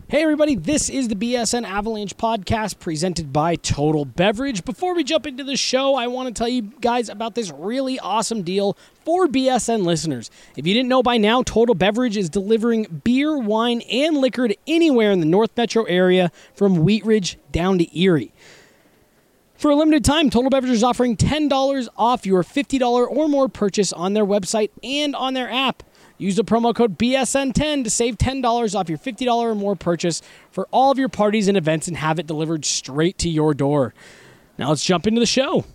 Hey everybody, this is the BSN Avalanche podcast presented by Total Beverage. Before we jump into the show, I want to tell you guys about this really awesome deal for BSN listeners. If you didn't know by now, Total Beverage is delivering beer, wine, and liquor to anywhere in the North Metro area from Wheat Ridge down to Erie. For a limited time, Total Beverage is offering $10 off your $50 or more purchase on their website and on their app. Use the promo code BSN10 to save $10 off your $50 or more purchase for all of your parties and events and have it delivered straight to your door. Now let's jump into the show.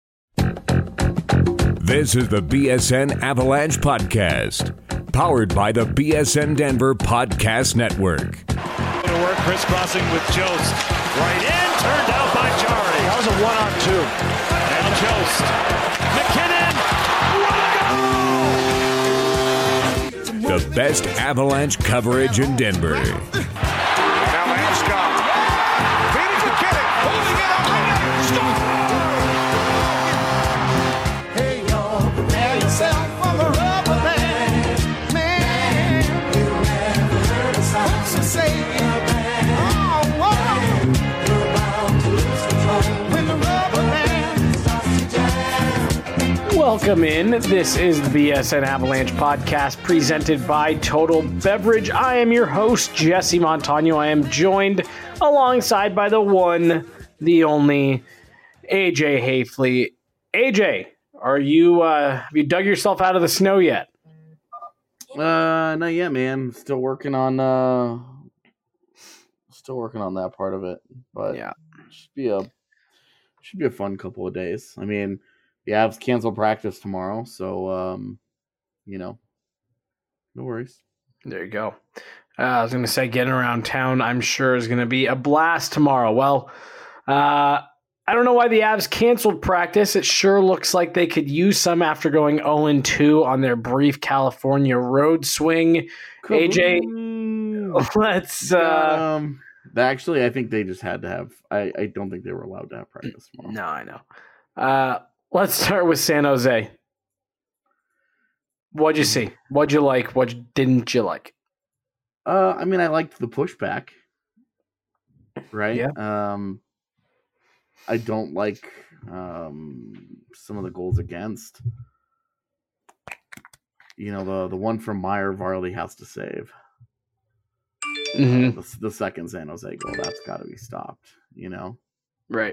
This is the BSN Avalanche Podcast, powered by the BSN Denver Podcast Network. To work, crisscrossing with Jost. Right in, turned out by Jari. That was a 1-on-2. And Jost. McKinnon. The best Avalanche coverage in Denver. Now Landeskog. Feeding McKinnon. Holding it up. Hey, y'all, prepare yourself for the rubber band. Man, you never heard a song so say it. Oh, whoa. You're about to lose control when the rubber band starts to jam. Welcome in. This is the BSN Avalanche podcast presented by Total Beverage. I am your host, Jesse Montano. I am joined alongside by the one, the only, AJ Hayfley. AJ, are you have you dug yourself out of the snow yet? Not yet, man. Still working on that part of it. But Yeah. should be a fun couple of days. I mean, the Avs cancel practice tomorrow, so no worries. There you go. I was going to say getting around town, I'm sure, is going to be a blast tomorrow. Well, I don't know why the Avs canceled practice. It sure looks like they could use some after going 0-2 on their brief California road swing. AJ, let's... Actually, I think they just had to have... I don't think they were allowed to have practice tomorrow. No, I know. Let's start with San Jose. What'd you see? What'd you like? What didn't you like? I mean, I liked the pushback. Right? Yeah. I don't like some of the goals against. You know, the one from Meyer Varley has to save. Mm-hmm. The second San Jose goal, that's got to be stopped, you know? Right.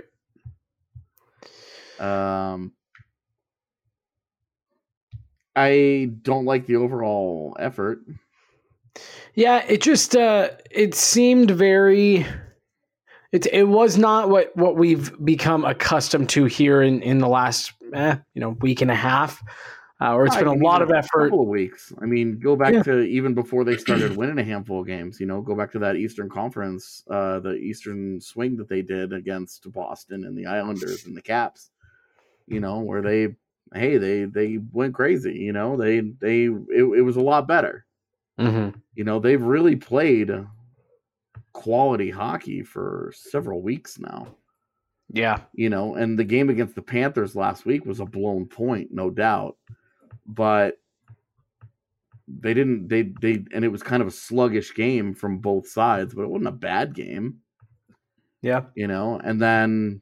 I don't like the overall effort. Yeah, it just it seemed very. It was not what we've become accustomed to here in the last week and a half, or it's been a lot of effort. A couple of weeks. I mean, go back to even before they started winning a handful of games. You know, go back to that Eastern Conference, the Eastern swing that they did against Boston and the Islanders and the Caps. You know, where they went crazy. You know, it was a lot better. Mm-hmm. You know, they've really played quality hockey for several weeks now. Yeah. You know, and the game against the Panthers last week was a blown point, no doubt. But they didn't and it was kind of a sluggish game from both sides, but it wasn't a bad game. Yeah. You know, and then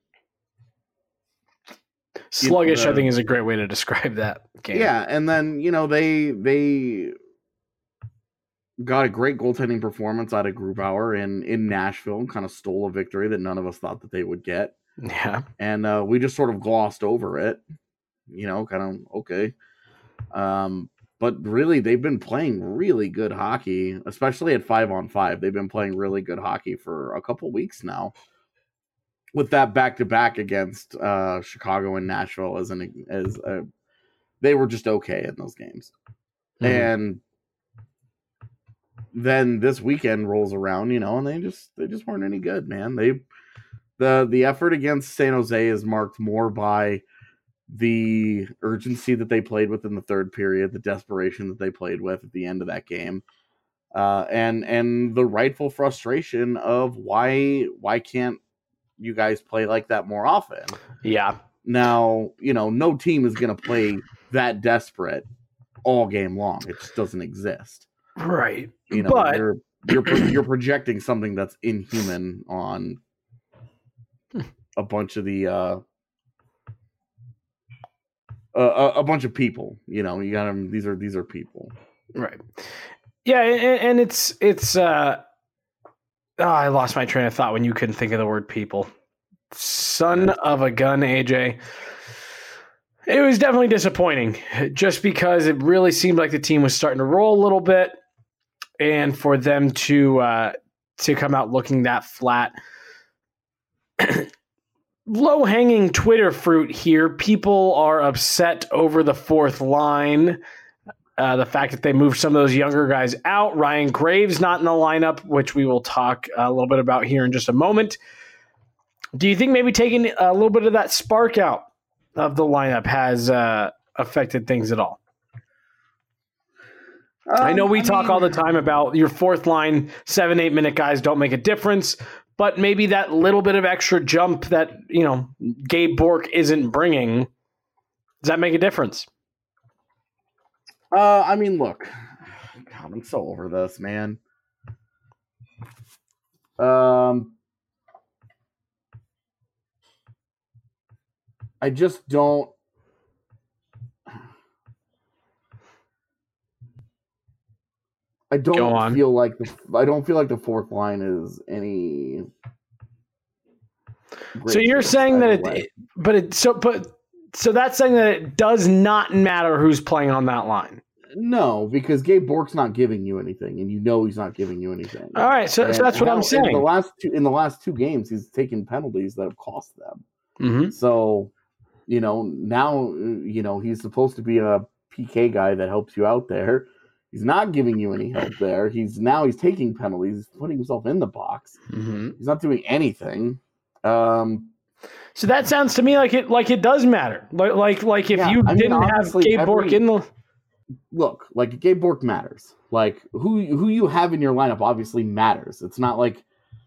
sluggish, I think, is a great way to describe that game. Yeah, and then, you know, they got a great goaltending performance out of Grubauer in Nashville and kind of stole a victory that none of us thought that they would get. Yeah. And we just sort of glossed over it, you know, kind of, okay. But really, they've been playing really good hockey, especially at 5-on-5. They've been playing really good hockey for a couple weeks now. With that back-to-back against Chicago and Nashville they were just okay in those games. Mm-hmm. And then this weekend rolls around, you know, and they just weren't any good, man. The effort against San Jose is marked more by the urgency that they played with in the third period, the desperation that they played with at the end of that game, and the rightful frustration of why can't you guys play like that more often? Yeah. Now, you know, no team is going to play that desperate all game long. It just doesn't exist. Right. You know, but you're projecting something that's inhuman on a bunch of the a bunch of people. You know, you got them. These are people, right? Yeah, and it's I lost my train of thought when you couldn't think of the word people. Son of a gun, AJ. It was definitely disappointing, just because it really seemed like the team was starting to roll a little bit, and for them to come out looking that flat. Low-hanging Twitter fruit here. People are upset over the fourth line. The fact that they moved some of those younger guys out. Ryan Graves not in the lineup, which we will talk a little bit about here in just a moment. Do you think maybe taking a little bit of that spark out of the lineup has affected things at all? I know we talk all the time about your fourth line, 7-8 minute guys don't make a difference, but maybe that little bit of extra jump that, Gabe Bourque isn't bringing, does that make a difference? Look, God, I'm so over this, man. I just don't. I don't feel like the fourth line is any. So you're saying that so that's saying that it does not matter who's playing on that line. No, because Gabe Bourque's not giving you anything, and he's not giving you anything. All right, so that's what I'm saying. In the last two games, he's taken penalties that have cost them. Mm-hmm. So, now he's supposed to be a PK guy that helps you out there. He's not giving you any help there. He's taking penalties. He's putting himself in the box. Mm-hmm. He's not doing anything. So that sounds to me like it does matter. Like if you didn't have Gabe Bourque in the look, like Gabe Bourque matters. Like who you have in your lineup obviously matters. It's not like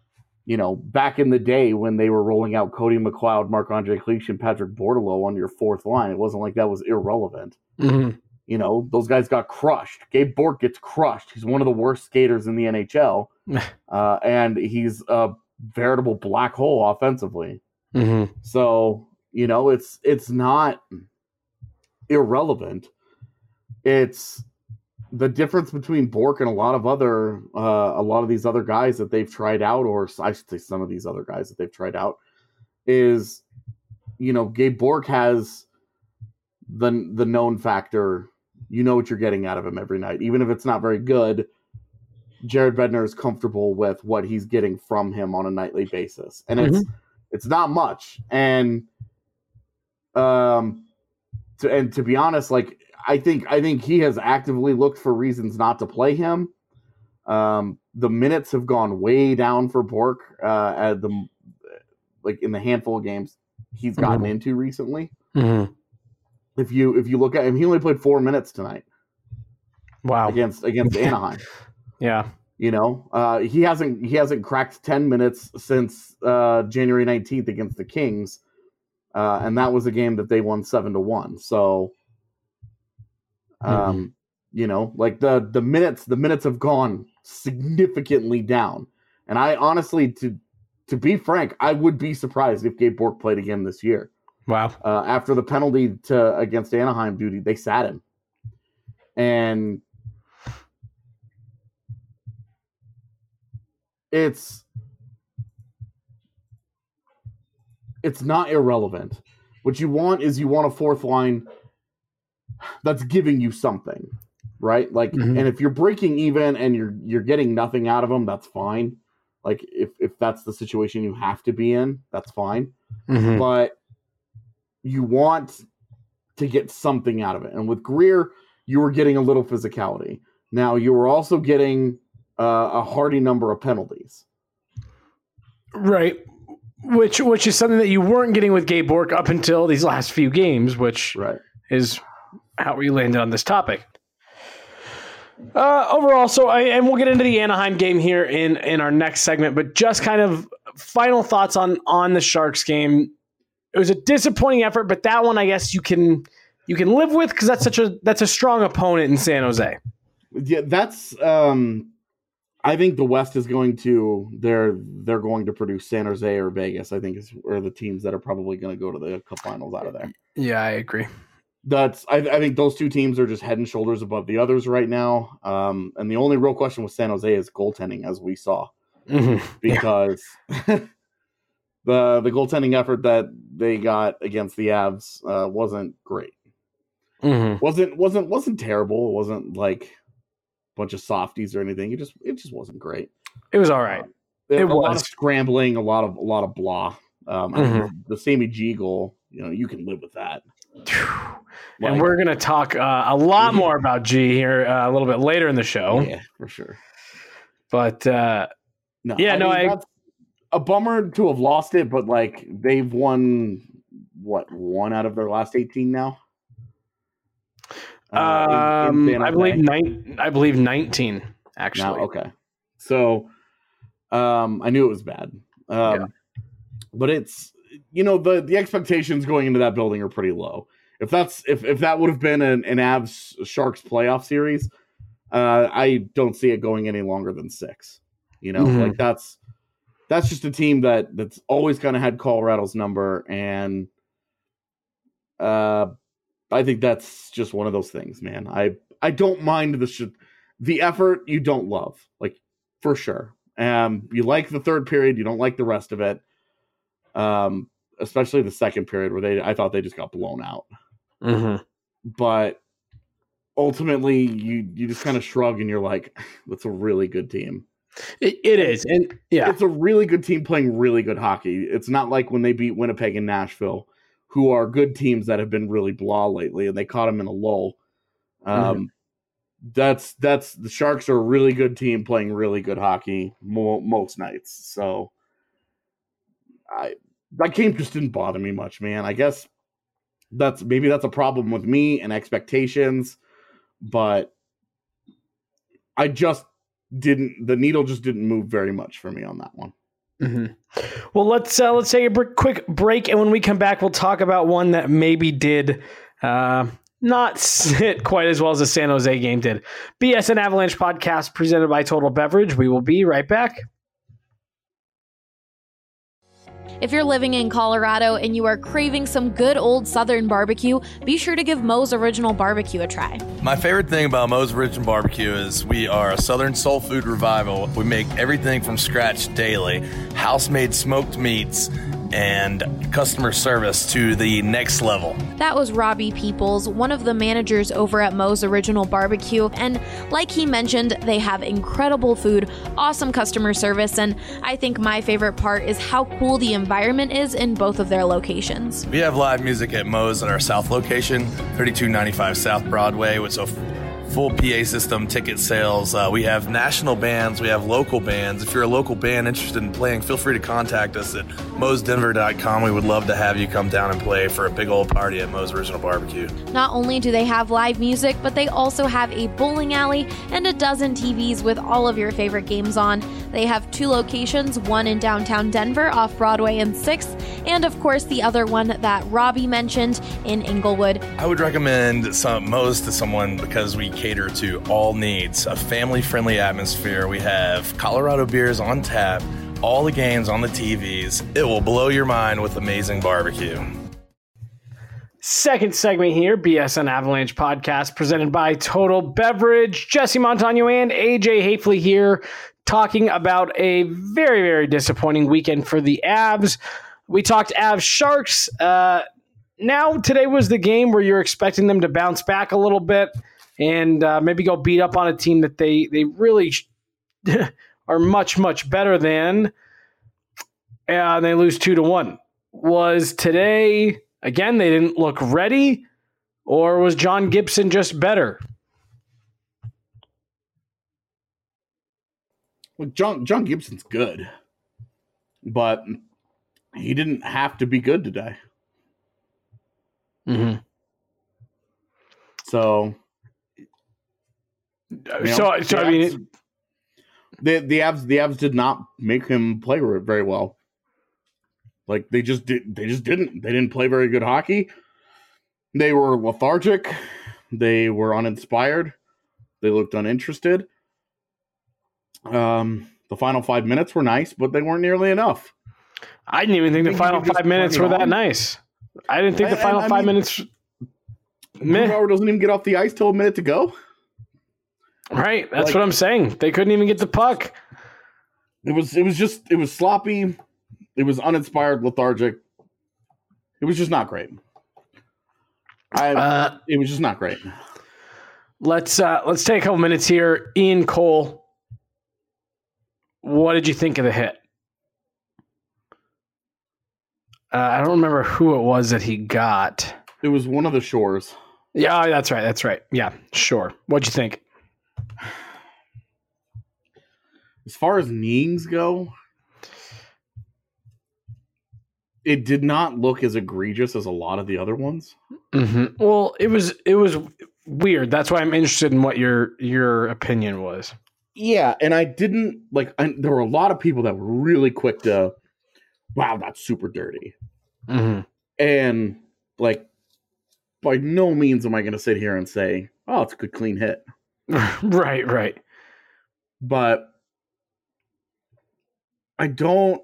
back in the day when they were rolling out Cody McLeod, Marc-Andre Cliche, and Patrick Bordelot on your fourth line. It wasn't like that was irrelevant. Mm-hmm. Those guys got crushed. Gabe Bourque gets crushed. He's one of the worst skaters in the NHL, and he's a veritable black hole offensively. Mm-hmm. So it's not irrelevant. It's the difference between Bourque and a lot of these other guys that they've tried out, or I should say some of these other guys that they've tried out, is Gabe Bourque has the known factor. You know what you're getting out of him every night. Even if it's not very good, Jared Bednar is comfortable with what he's getting from him on a nightly basis. And it's not much. And to be honest, like I think he has actively looked for reasons not to play him. The minutes have gone way down for Bourque in the handful of games he's gotten into recently. Mm-hmm. If you look at him, he only played 4 minutes tonight. Wow. Against Anaheim. Yeah. He hasn't cracked 10 minutes since January 19th against the Kings. And that was a game that they won 7-1. So like the minutes have gone significantly down. And I honestly, to be frank, I would be surprised if Gabe Bourque played again this year. Wow. After the penalty against Anaheim duty, they sat him. And it's not irrelevant. What you want is a fourth line that's giving you something, right? Like, and if you're breaking even and you're getting nothing out of them, that's fine. Like if that's the situation you have to be in, that's fine. Mm-hmm. But you want to get something out of it. And with Greer, you were getting a little physicality. Now you were also getting a hearty number of penalties. Right. Which is something that you weren't getting with Gabe Bourque up until these last few games, which is how we landed on this topic. Overall, and we'll get into the Anaheim game here in our next segment, but just kind of final thoughts on the Sharks game. It was a disappointing effort, but that one I guess you can live with because that's a strong opponent in San Jose. Yeah, that's I think the West is going to they're going to produce San Jose or Vegas. I think are the teams that are probably going to go to the Cup Finals out of there. Yeah, I agree. I think those two teams are just head and shoulders above the others right now. And the only real question with San Jose is goaltending, as we saw, because the goaltending effort that they got against the Avs wasn't great. Wasn't terrible. It wasn't like a bunch of softies or anything. It just wasn't great. It was all right. A lot of scrambling, a lot of blah. I mean, the Sammy G goal, you can live with that. And we're going to talk a lot more about G here a little bit later in the show. Yeah, for sure. But that's a bummer to have lost it, but like they've won one out of their last 18 now. I believe 19 actually. Now, okay. So I knew it was bad. But it's the expectations going into that building are pretty low. If that would have been an Avs Sharks playoff series, I don't see it going any longer than 6. Like that's just a team that's always kind of had Colorado's number, and I think that's just one of those things, man. I don't mind the effort you don't love, like for sure. You like the third period, you don't like the rest of it. Especially the second period where I thought they just got blown out. But ultimately, you just kind of shrug and you're like, that's a really good team. It is. And yeah, it's a really good team playing really good hockey. It's not like when they beat Winnipeg and Nashville, who are good teams that have been really blah lately, and they caught them in a lull. That's the Sharks are a really good team playing really good hockey most nights. So that game just didn't bother me much, man. I guess that's a problem with me and expectations, but the needle just didn't move very much for me on that one. Well, let's take a quick break, and when we come back, we'll talk about one that maybe did not sit quite as well as the San Jose game did. BSN Avalanche podcast presented by Total Beverage. We will be right back. If you're living in Colorado and you are craving some good old Southern barbecue, be sure to give Moe's Original Barbecue a try. My favorite thing about Moe's Original Barbecue is we are a Southern soul food revival. We make everything from scratch daily, house-made smoked meats, and customer service to the next level. That was Robbie Peoples, one of the managers over at Moe's Original Barbecue, and like he mentioned, they have incredible food, awesome customer service, and I think my favorite part is how cool the environment is in both of their locations. We have live music at Moe's at our South location, 3295 South Broadway, with a full PA system, ticket sales. We have national bands. We have local bands. If you're a local band interested in playing, feel free to contact us at moesdenver.com. We would love to have you come down and play for a big old party at Moe's Original Barbecue. Not only do they have live music, but they also have a bowling alley and a dozen TVs with all of your favorite games on. They have 2 locations, one in downtown Denver off Broadway and 6th, and of course the other one that Robbie mentioned in Inglewood. I would recommend Moe's to someone because we cater to all needs, a family-friendly atmosphere. We have Colorado beers on tap, all the games on the TVs. It will blow your mind with amazing barbecue. Second segment here, BSN Avalanche podcast presented by Total Beverage. Jesse Montano and AJ Hafley here talking about a very, very disappointing weekend for the Avs. We talked Avs Sharks. Now today was the game where you're expecting them to bounce back a little bit and maybe go beat up on a team that they really are much, much better than. And they lose 2-1. Was today, again, they didn't look ready, or was John Gibson just better? Well, John Gibson's good, but he didn't have to be good today. So, I mean, the Avs did not make him play very well. Like they just didn't. They didn't play very good hockey. They were lethargic. They were uninspired. They looked uninterested. The final 5 minutes were nice, but they weren't nearly enough. I didn't even think the final 5 minutes were that nice. I didn't think the final 5 minutes. Grubauer doesn't even get off the ice till a minute to go. Right, that's what I'm saying. They couldn't even get the puck. It was sloppy. It was uninspired, lethargic. It was just not great. It was just not great. Let's take a couple minutes here. Ian Cole, what did you think of the hit? I don't remember who it was that he got. It was one of the Shores. Yeah, that's right. Yeah, sure. What'd you think? As far as kneeings go, it did not look as egregious as a lot of the other ones. Mm-hmm. Well, it was weird. That's why I'm interested in what your opinion was. Yeah, and I didn't there were a lot of people that were really quick to, wow, that's super dirty. Mm-hmm. And by no means am I going to sit here and say, oh, it's a good clean hit. Right. But I don't.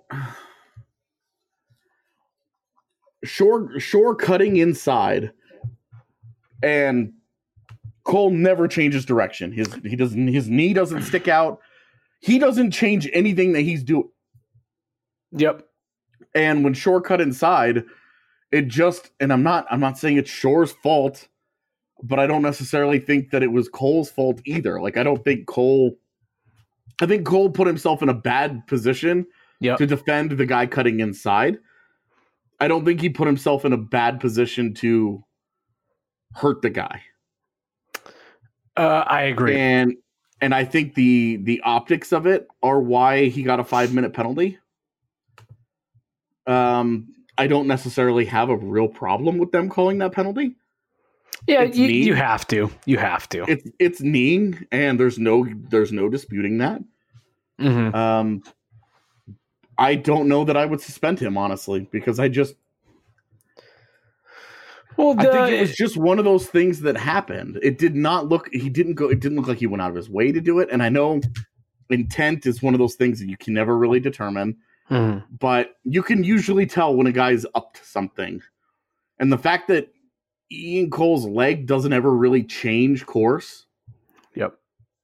Shore cutting inside, and Cole never changes direction. His knee doesn't stick out. He doesn't change anything that he's doing. Yep. And when Shore cut inside, it just, and I'm not saying it's Shore's fault, but I don't necessarily think that it was Cole's fault either. I think Cole put himself in a bad position to defend the guy cutting inside. I don't think he put himself in a bad position to hurt the guy. I agree. And I think the optics of it are why he got a 5-minute penalty. I don't necessarily have a real problem with them calling that penalty. Yeah, you have to. You have to. It's kneeing, and there's no disputing that. Mm-hmm. I don't know that I would suspend him, honestly, because I think it was just one of those things that happened. It didn't look like he went out of his way to do it. And I know intent is one of those things that you can never really determine, but you can usually tell when a guy's up to something. And the fact that Ian Cole's leg doesn't ever really change course. Yep.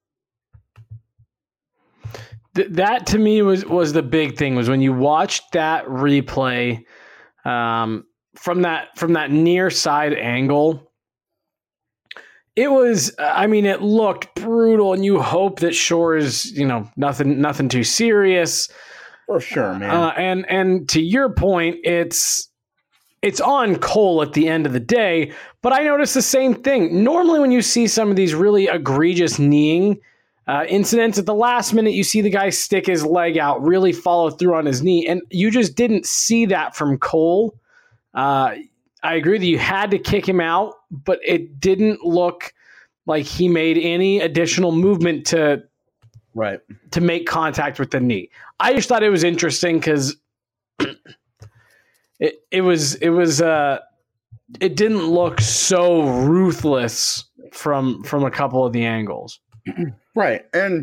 That to me was the big thing, was when you watched that replay from that near side angle. It was, it looked brutal, and you hope that Shore is, nothing too serious. For sure, man. And to your point, it's on Cole at the end of the day, but I noticed the same thing. Normally when you see some of these really egregious kneeing incidents, at the last minute you see the guy stick his leg out, really follow through on his knee, and you just didn't see that from Cole. I agree that you had to kick him out, but it didn't look like he made any additional movement to make contact with the knee. I just thought it was interesting because it didn't look so ruthless from a couple of the angles. Right. And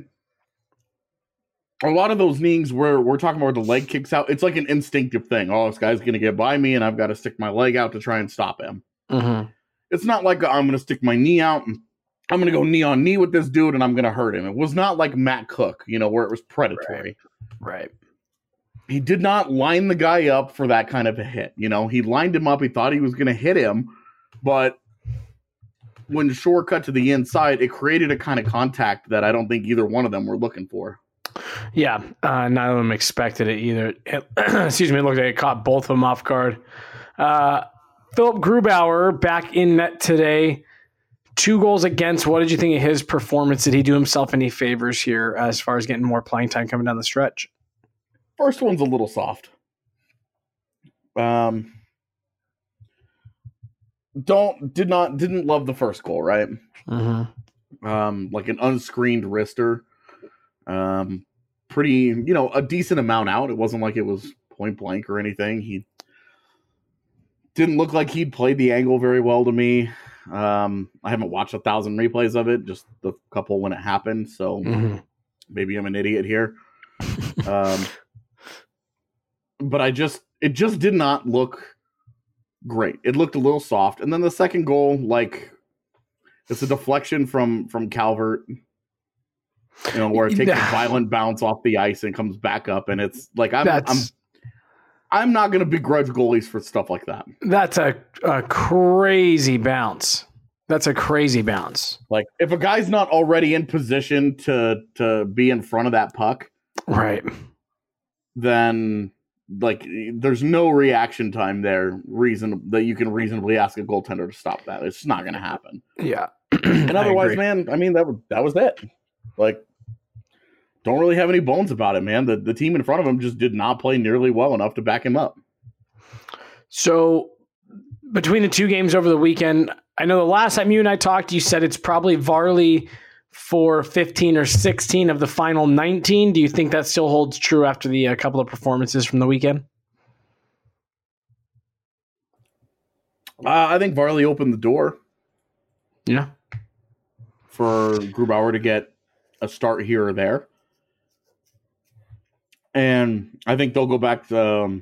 a lot of those knees where we're talking about the leg kicks out, it's like an instinctive thing. Oh, this guy's going to get by me and I've got to stick my leg out to try and stop him. Mm-hmm. It's not like I'm going to stick my knee out and I'm going to go knee on knee with this dude and I'm going to hurt him. It was not like Matt Cook, where it was predatory. Right. He did not line the guy up for that kind of a hit. He lined him up. He thought he was going to hit him, but when Shore cut to the inside, it created a kind of contact that I don't think either one of them were looking for. Yeah, none of them expected it either. Excuse me, it looked like it caught both of them off guard. Philip Grubauer back in net today. 2 goals against. What did you think of his performance? Did he do himself any favors here as far as getting more playing time coming down the stretch? First one's a little soft. Didn't love the first goal, right? Mm-hmm. Like an unscreened wrister. Pretty, a decent amount out. It wasn't like it was point blank or anything. He didn't look like he'd played the angle very well to me. I haven't watched 1,000 replays of it, just the couple when it happened. So Maybe I'm an idiot here. But it just did not look great. It looked a little soft. And then the second goal, like, it's a deflection from Calvert, where it takes a violent bounce off the ice and comes back up. And it's like, I'm not going to begrudge goalies for stuff like that. That's a crazy bounce. That's a crazy bounce. Like, if a guy's not already in position to be in front of that puck, right, then like there's no reaction time there that you can reasonably ask a goaltender to stop that. It's not going to happen. Yeah. And otherwise, man, I mean, that was it. Like, don't really have any bones about it, man. The team in front of him just did not play nearly well enough to back him up. So between the two games over the weekend, I know the last time you and I talked, you said it's probably Varley for 15 or 16 of the final 19. Do you think that still holds true after the couple of performances from the weekend? I think Varley opened the door. Yeah. For Grubauer to get a start here or there. And I think they'll go back to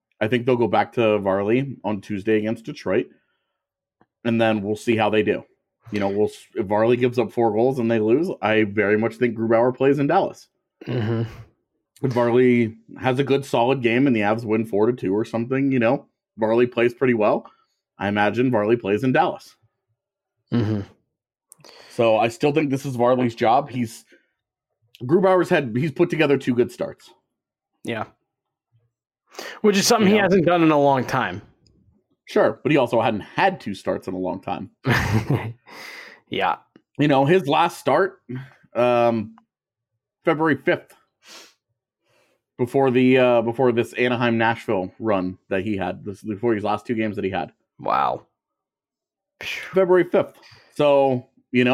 Varley on Tuesday against Detroit. And then we'll see how they do. If Varley gives up 4 goals and they lose, I very much think Grubauer plays in Dallas. Mm-hmm. If Varley has a good, solid game and the Avs win 4-2 or something, Varley plays pretty well. I imagine Varley plays in Dallas. Mm-hmm. So I still think this is Varley's job. He's put together 2 good starts. Yeah. Which is something he hasn't done in a long time. Sure, but he also hadn't had 2 starts in a long time. Yeah. His last start, February 5th, before this Anaheim-Nashville run that he had, before his last 2 games that he had. Wow. February 5th. So,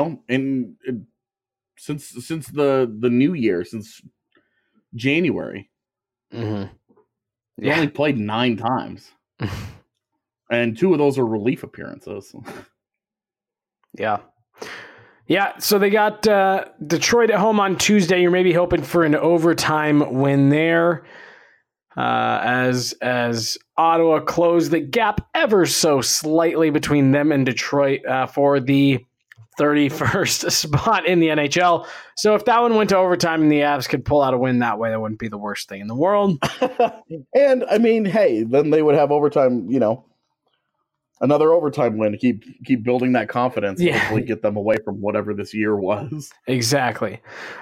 since the new year, since January, mm-hmm. he only played 9 times. And 2 of those are relief appearances. Yeah. Yeah, so they got Detroit at home on Tuesday. You're maybe hoping for an overtime win there. As Ottawa closed the gap ever so slightly between them and Detroit for the 31st spot in the NHL. So if that one went to overtime and the Avs could pull out a win that way, that wouldn't be the worst thing in the world. And, I mean, hey, then they would have overtime, another overtime win to keep building that confidence and hopefully get them away from whatever this year was. Exactly.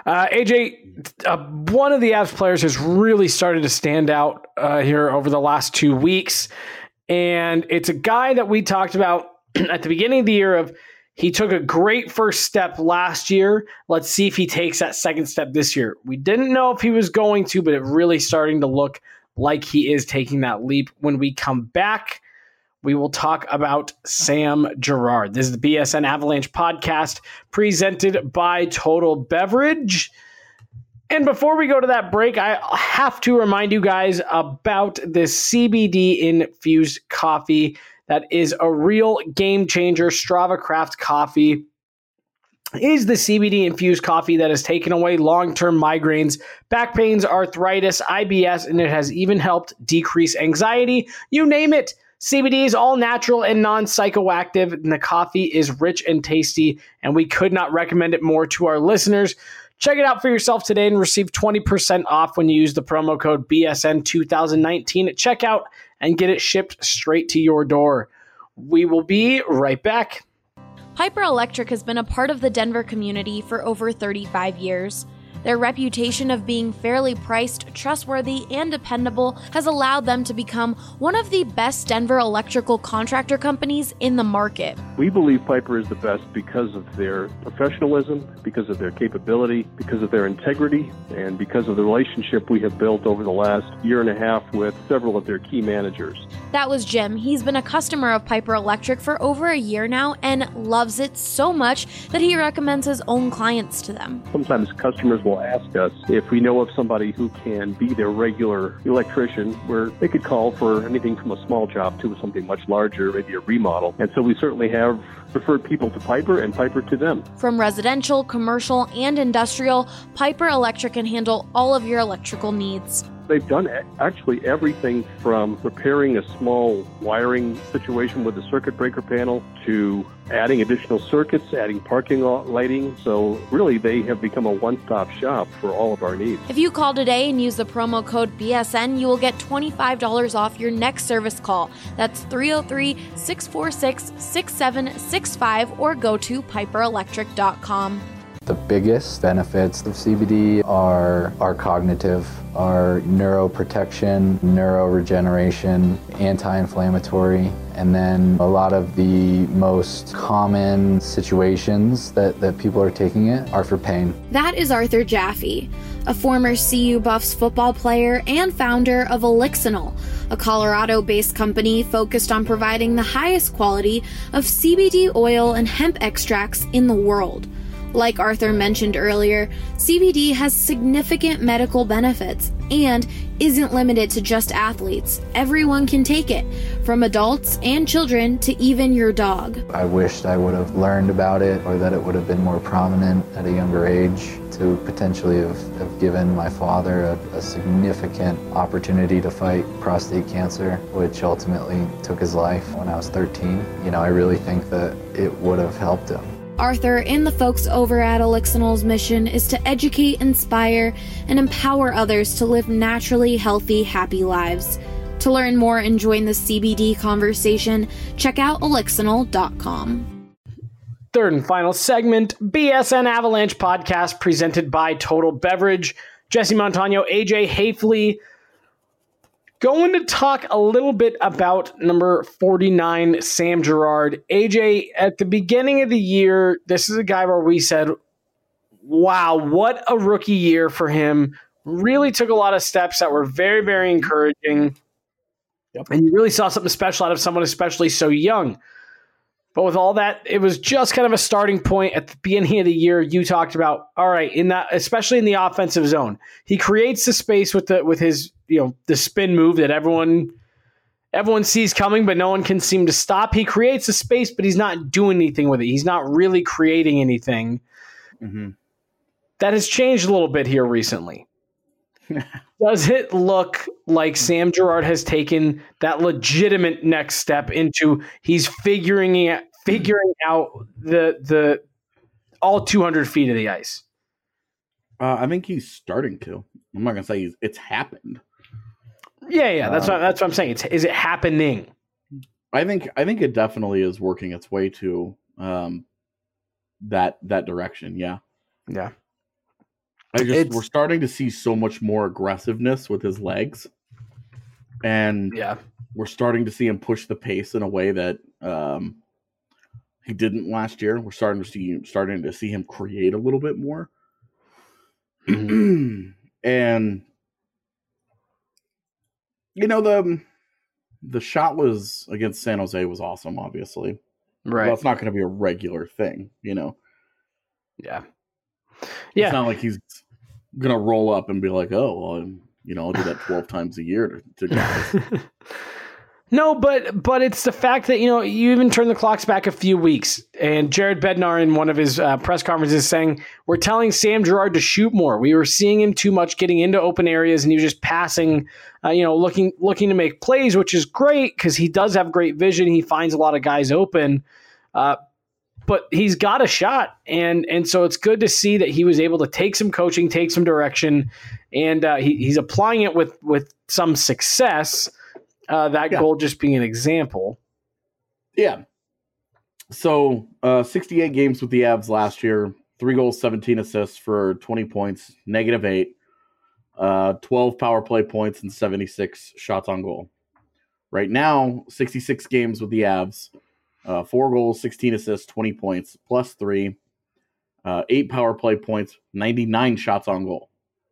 AJ, one of the Avs players has really started to stand out here over the last 2 weeks. And it's a guy that we talked about at the beginning of the year he took a great first step last year. Let's see if he takes that second step this year. We didn't know if he was going to, but it really starting to look like he is taking that leap. When we come back, we will talk about Sam Girard. This is the BSN Avalanche podcast presented by Total Beverage. And before we go to that break, I have to remind you guys about this CBD infused coffee that is a real game changer. Strava Craft Coffee is the CBD infused coffee that has taken away long-term migraines, back pains, arthritis, IBS, and it has even helped decrease anxiety. You name it. CBD is all natural and non-psychoactive, and the coffee is rich and tasty, and we could not recommend it more to our listeners. Check it out for yourself today and receive 20% off when you use the promo code BSN2019 at checkout and get it shipped straight to your door. We will be right back. Piper Electric has been a part of the Denver community for over 35 years. Their reputation of being fairly priced, trustworthy, and dependable has allowed them to become one of the best Denver electrical contractor companies in the market. We believe Piper is the best because of their professionalism, because of their capability, because of their integrity, and because of the relationship we have built over the last year and a half with several of their key managers. That was Jim. He's been a customer of Piper Electric for over a year now and loves it so much that he recommends his own clients to them. Sometimes customers will will ask us if we know of somebody who can be their regular electrician, where they could call for anything from a small job to something much larger, maybe a remodel. And so we certainly have referred people to Piper and Piper to them. From residential, commercial, and industrial, Piper Electric can handle all of your electrical needs. They've done actually everything from repairing a small wiring situation with a circuit breaker panel to adding additional circuits, adding parking lot lighting. So really, they have become a one-stop shop for all of our needs. If you call today and use the promo code BSN, you will get $25 off your next service call. That's 303-646-6765 or go to piperelectric.com. The biggest benefits of CBD are cognitive, are neuroprotection, neuroregeneration, anti-inflammatory, and then a lot of the most common situations that people are taking it are for pain. That is Arthur Jaffe, a former CU Buffs football player and founder of Elixinol, a Colorado-based company focused on providing the highest quality of CBD oil and hemp extracts in the world. Like Arthur mentioned earlier, CBD has significant medical benefits and isn't limited to just athletes. Everyone can take it, from adults and children to even your dog. I wished I would have learned about it, or that it would have been more prominent at a younger age to potentially have given my father a significant opportunity to fight prostate cancer, which ultimately took his life when I was 13. I really think that it would have helped him. Arthur and the folks over at Elixinol's mission is to educate, inspire, and empower others to live naturally healthy, happy lives. To learn more and join the CBD conversation, check out Elixinol.com. Third and final segment, BSN Avalanche podcast presented by Total Beverage. Jesse Montano, AJ Hafley. Going to talk a little bit about number 49, Sam Girard. AJ, at the beginning of the year, this is a guy where we said, wow, what a rookie year for him. Really took a lot of steps that were very, very encouraging. Yep. And you really saw something special out of someone, especially so young. But with all that, it was just kind of a starting point at the beginning of the year. You talked about, all right, in that, especially in the offensive zone, he creates the space with his, the spin move that everyone sees coming, but no one can seem to stop. He creates the space, but he's not doing anything with it. He's not really creating anything. Mm-hmm. That has changed a little bit here recently. Does it look like Sam Girard has taken that legitimate next step into he's figuring out the all 200 feet of the ice? I think he's starting to. I'm not gonna say it's happened. Yeah, that's what I'm saying. Is it happening? I think it definitely is working its way to that direction. Yeah. Yeah. We're starting to see so much more aggressiveness with his legs, and we're starting to see him push the pace in a way that he didn't last year. We're starting to see him create a little bit more, and the shot was against San Jose was awesome. Obviously, right? Well, it's not going to be a regular thing, Yeah. It's not like he's going to roll up and be like, oh, well, I'll do that 12 times a year to guys. No, but it's the fact that, you even turn the clocks back a few weeks, and Jared Bednar in one of his press conferences saying, we're telling Sam Girard to shoot more. We were seeing him too much getting into open areas, and he was just passing, looking to make plays, which is great because he does have great vision. He finds a lot of guys open. But he's got a shot, and so it's good to see that he was able to take some coaching, take some direction, and he's applying it with some success. Goal just being an example. Yeah. So 68 games with the Avs last year, 3 goals, 17 assists for 20 points, -8, 12 power play points, and 76 shots on goal. Right now, 66 games with the Avs. 4 goals, 16 assists, 20 points, +3, 8 power play points, 99 shots on goal.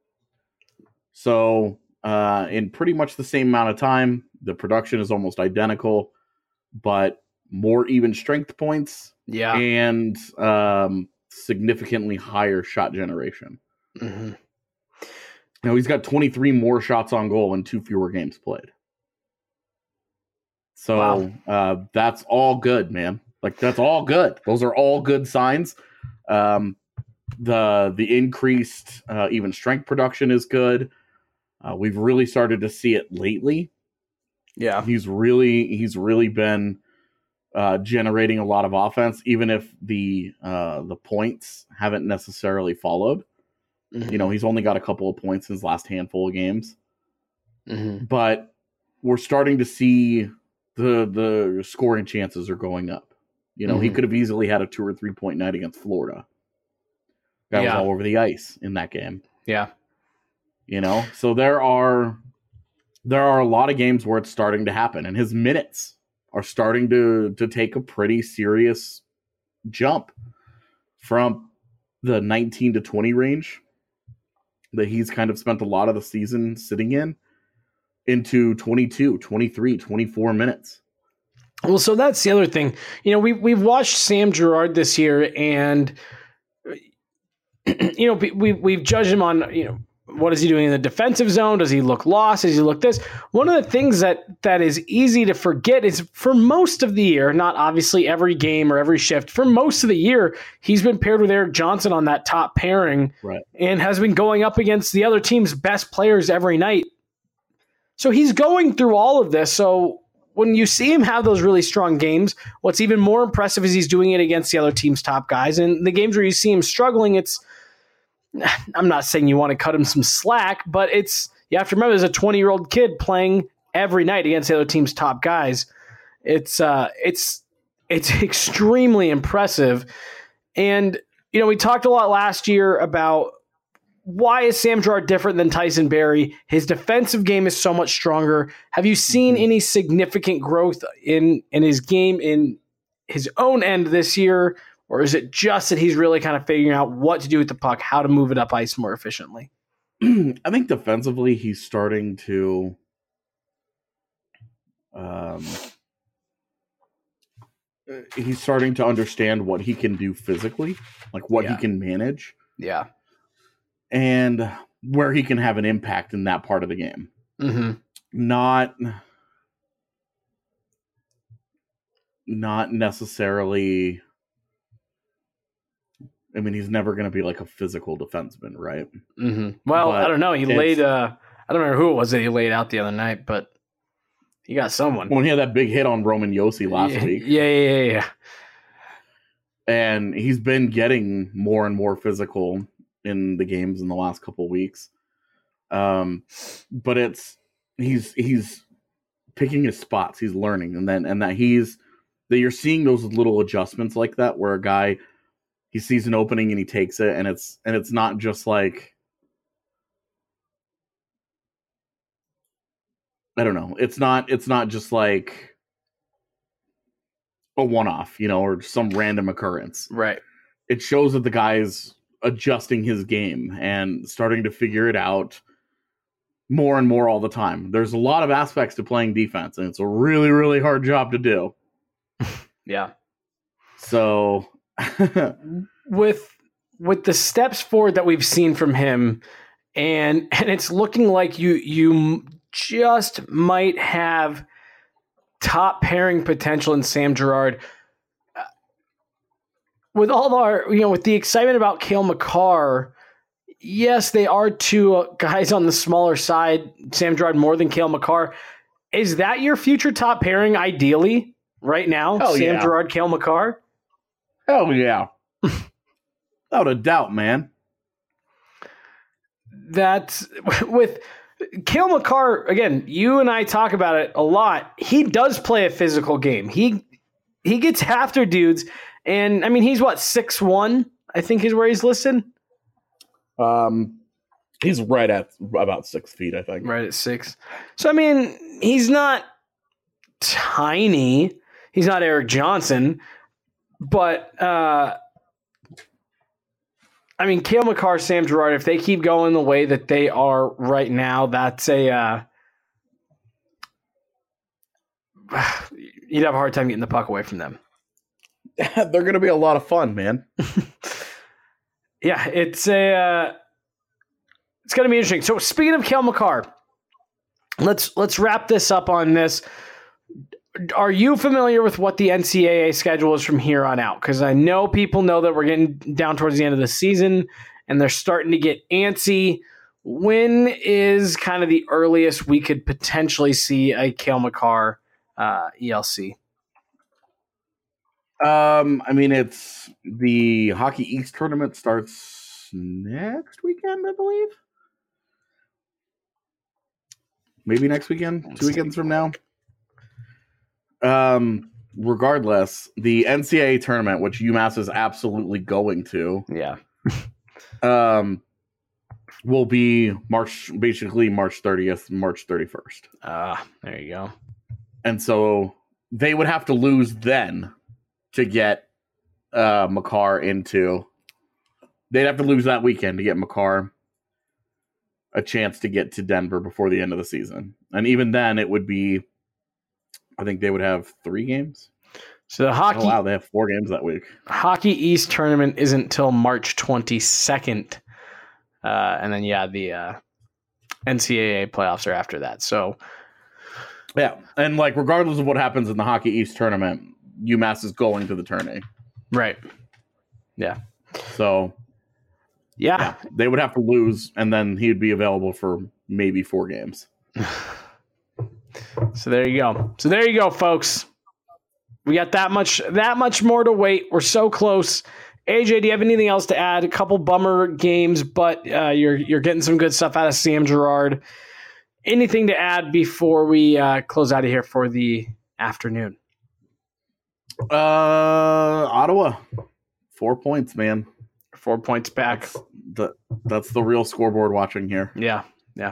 So in pretty much the same amount of time, the production is almost identical, but more even strength points and significantly higher shot generation. Mm-hmm. You know, he's got 23 more shots on goal and 2 fewer games played. So that's all good, man. Like, that's all good. Those are all good signs. The increased even strength production is good. We've really started to see it lately. Yeah, he's really been generating a lot of offense, even if the points haven't necessarily followed. Mm-hmm. You know, he's only got a couple of points in his last handful of games, but we're starting to see the scoring chances are going up. You know, he could have easily had a 2 or 3 point night against Florida. That was all over the ice in that game. Yeah. You know, so there are a lot of games where it's starting to happen, and his minutes are starting to take a pretty serious jump from the 19 to 20 range that he's kind of spent a lot of the season sitting in into 22, 23, 24 minutes. Well, so that's the other thing. You know, we've watched Sam Girard this year, and you know, we've judged him on, you know, what is he doing in the defensive zone? Does he look lost? Does he look this? One of the things that is easy to forget is for most of the year, not obviously every game or every shift, for most of the year, he's been paired with Erik Johnson on that top pairing, right, and has been going up against the other team's best players every night. So he's going through all of this. So when you see him have those really strong games, what's even more impressive is he's doing it against the other team's top guys. And the games where you see him struggling, I'm not saying you want to cut him some slack, but you have to remember there's a 20-year-old kid playing every night against the other team's top guys. It's extremely impressive. And, you know, we talked a lot last year about why is Sam Girard different than Tyson Barrie? His defensive game is so much stronger. Have you seen any significant growth in his game in his own end this year? Or is it just that he's really kind of figuring out what to do with the puck, how to move it up ice more efficiently? I think defensively he's starting to understand what he can do physically, like what he can manage. Yeah. And where he can have an impact in that part of the game. Mm-hmm. Not necessarily. I mean, he's never going to be like a physical defenseman, right? Mm-hmm. Well, but I don't know. He laid. I don't remember who it was that he laid out the other night, but he got someone. When he had that big hit on Roman Josi last week. Yeah. And he's been getting more and more physical in the games in the last couple of weeks. But he's picking his spots. He's learning, and that you're seeing those little adjustments like that, where a guy, he sees an opening and he takes it, and it's not just like, I don't know. It's not just like a one-off, you know, or some random occurrence. Right. It shows that the guy's adjusting his game and starting to figure it out more and more all the time. There's a lot of aspects to playing defense, and it's a really, really hard job to do. Yeah. So with the steps forward that we've seen from him, and it's looking like you just might have top pairing potential in Sam Girard. With all our, you know, with the excitement about Cale Makar, yes, they are two guys on the smaller side. Sam Girard more than Cale Makar. Is that your future top pairing ideally right now? Hell Sam yeah. Girard, Cale Makar? Hell yeah. Without a doubt, man. That's with Cale Makar, again, you and I talk about it a lot. He does play a physical game. He gets after dudes, and I mean, he's what, 6'1", I think is where he's listed. He's right at about 6 feet, I think. Right at 6. So I mean, he's not tiny. He's not Erik Johnson, but I mean, Cale Makar, Sam Girard, if they keep going the way that they are right now, that's you'd have a hard time getting the puck away from them. They're going to be a lot of fun, man. Yeah, it's It's going to be interesting. So speaking of Cale Makar, let's wrap this up on this. Are you familiar with what the NCAA schedule is from here on out? Because I know people know that we're getting down towards the end of the season and they're starting to get antsy. When is kind of the earliest we could potentially see a Cale Makar ELC? I mean, it's the Hockey East tournament starts next weekend, I believe. Maybe next weekend, 2 weekends from now. Regardless, the NCAA tournament, which UMass is absolutely going to, will be March 30th, March 31st. There you go. And so they would have to lose then to get Makar into. They'd have to lose that weekend to get Makar a chance to get to Denver before the end of the season. And even then, it would be, I think they would have 3 games. So the hockey, they have 4 games that week. Hockey East tournament isn't until March 22nd. And then, the NCAA playoffs are after that. So, yeah. And, regardless of what happens in the Hockey East tournament, UMass is going to the tourney. Right. Yeah. So, yeah. They would have to lose, and then he'd be available for maybe 4 games. So there you go, folks. We got that much more to wait. We're so close. AJ, do you have anything else to add? A couple bummer games, but you're getting some good stuff out of Sam Girard. Anything to add before we close out of here for the afternoon? Ottawa, 4 points, man. 4 points back. That's the real scoreboard watching here. Yeah.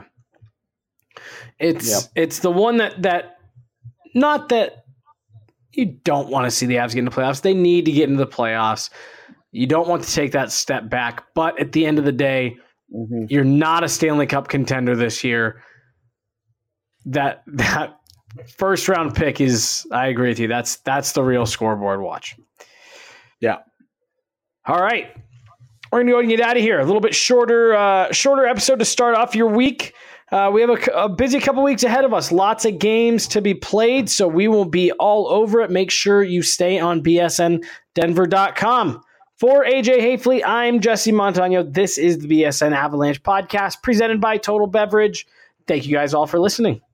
It's the one that not that you don't want to see the Avs get into the playoffs. They need to get into the playoffs. You don't want to take that step back, but at the end of the day, you're not a Stanley Cup contender this year. That first round pick is, I agree with you. That's the real scoreboard watch. Yeah. All right. We're going to go and get out of here. A little bit shorter episode to start off your week. We have a busy couple weeks ahead of us. Lots of games to be played, so we will be all over it. Make sure you stay on bsndenver.com. For AJ Hafley, I'm Jesse Montano. This is the BSN Avalanche podcast presented by Total Beverage. Thank you guys all for listening.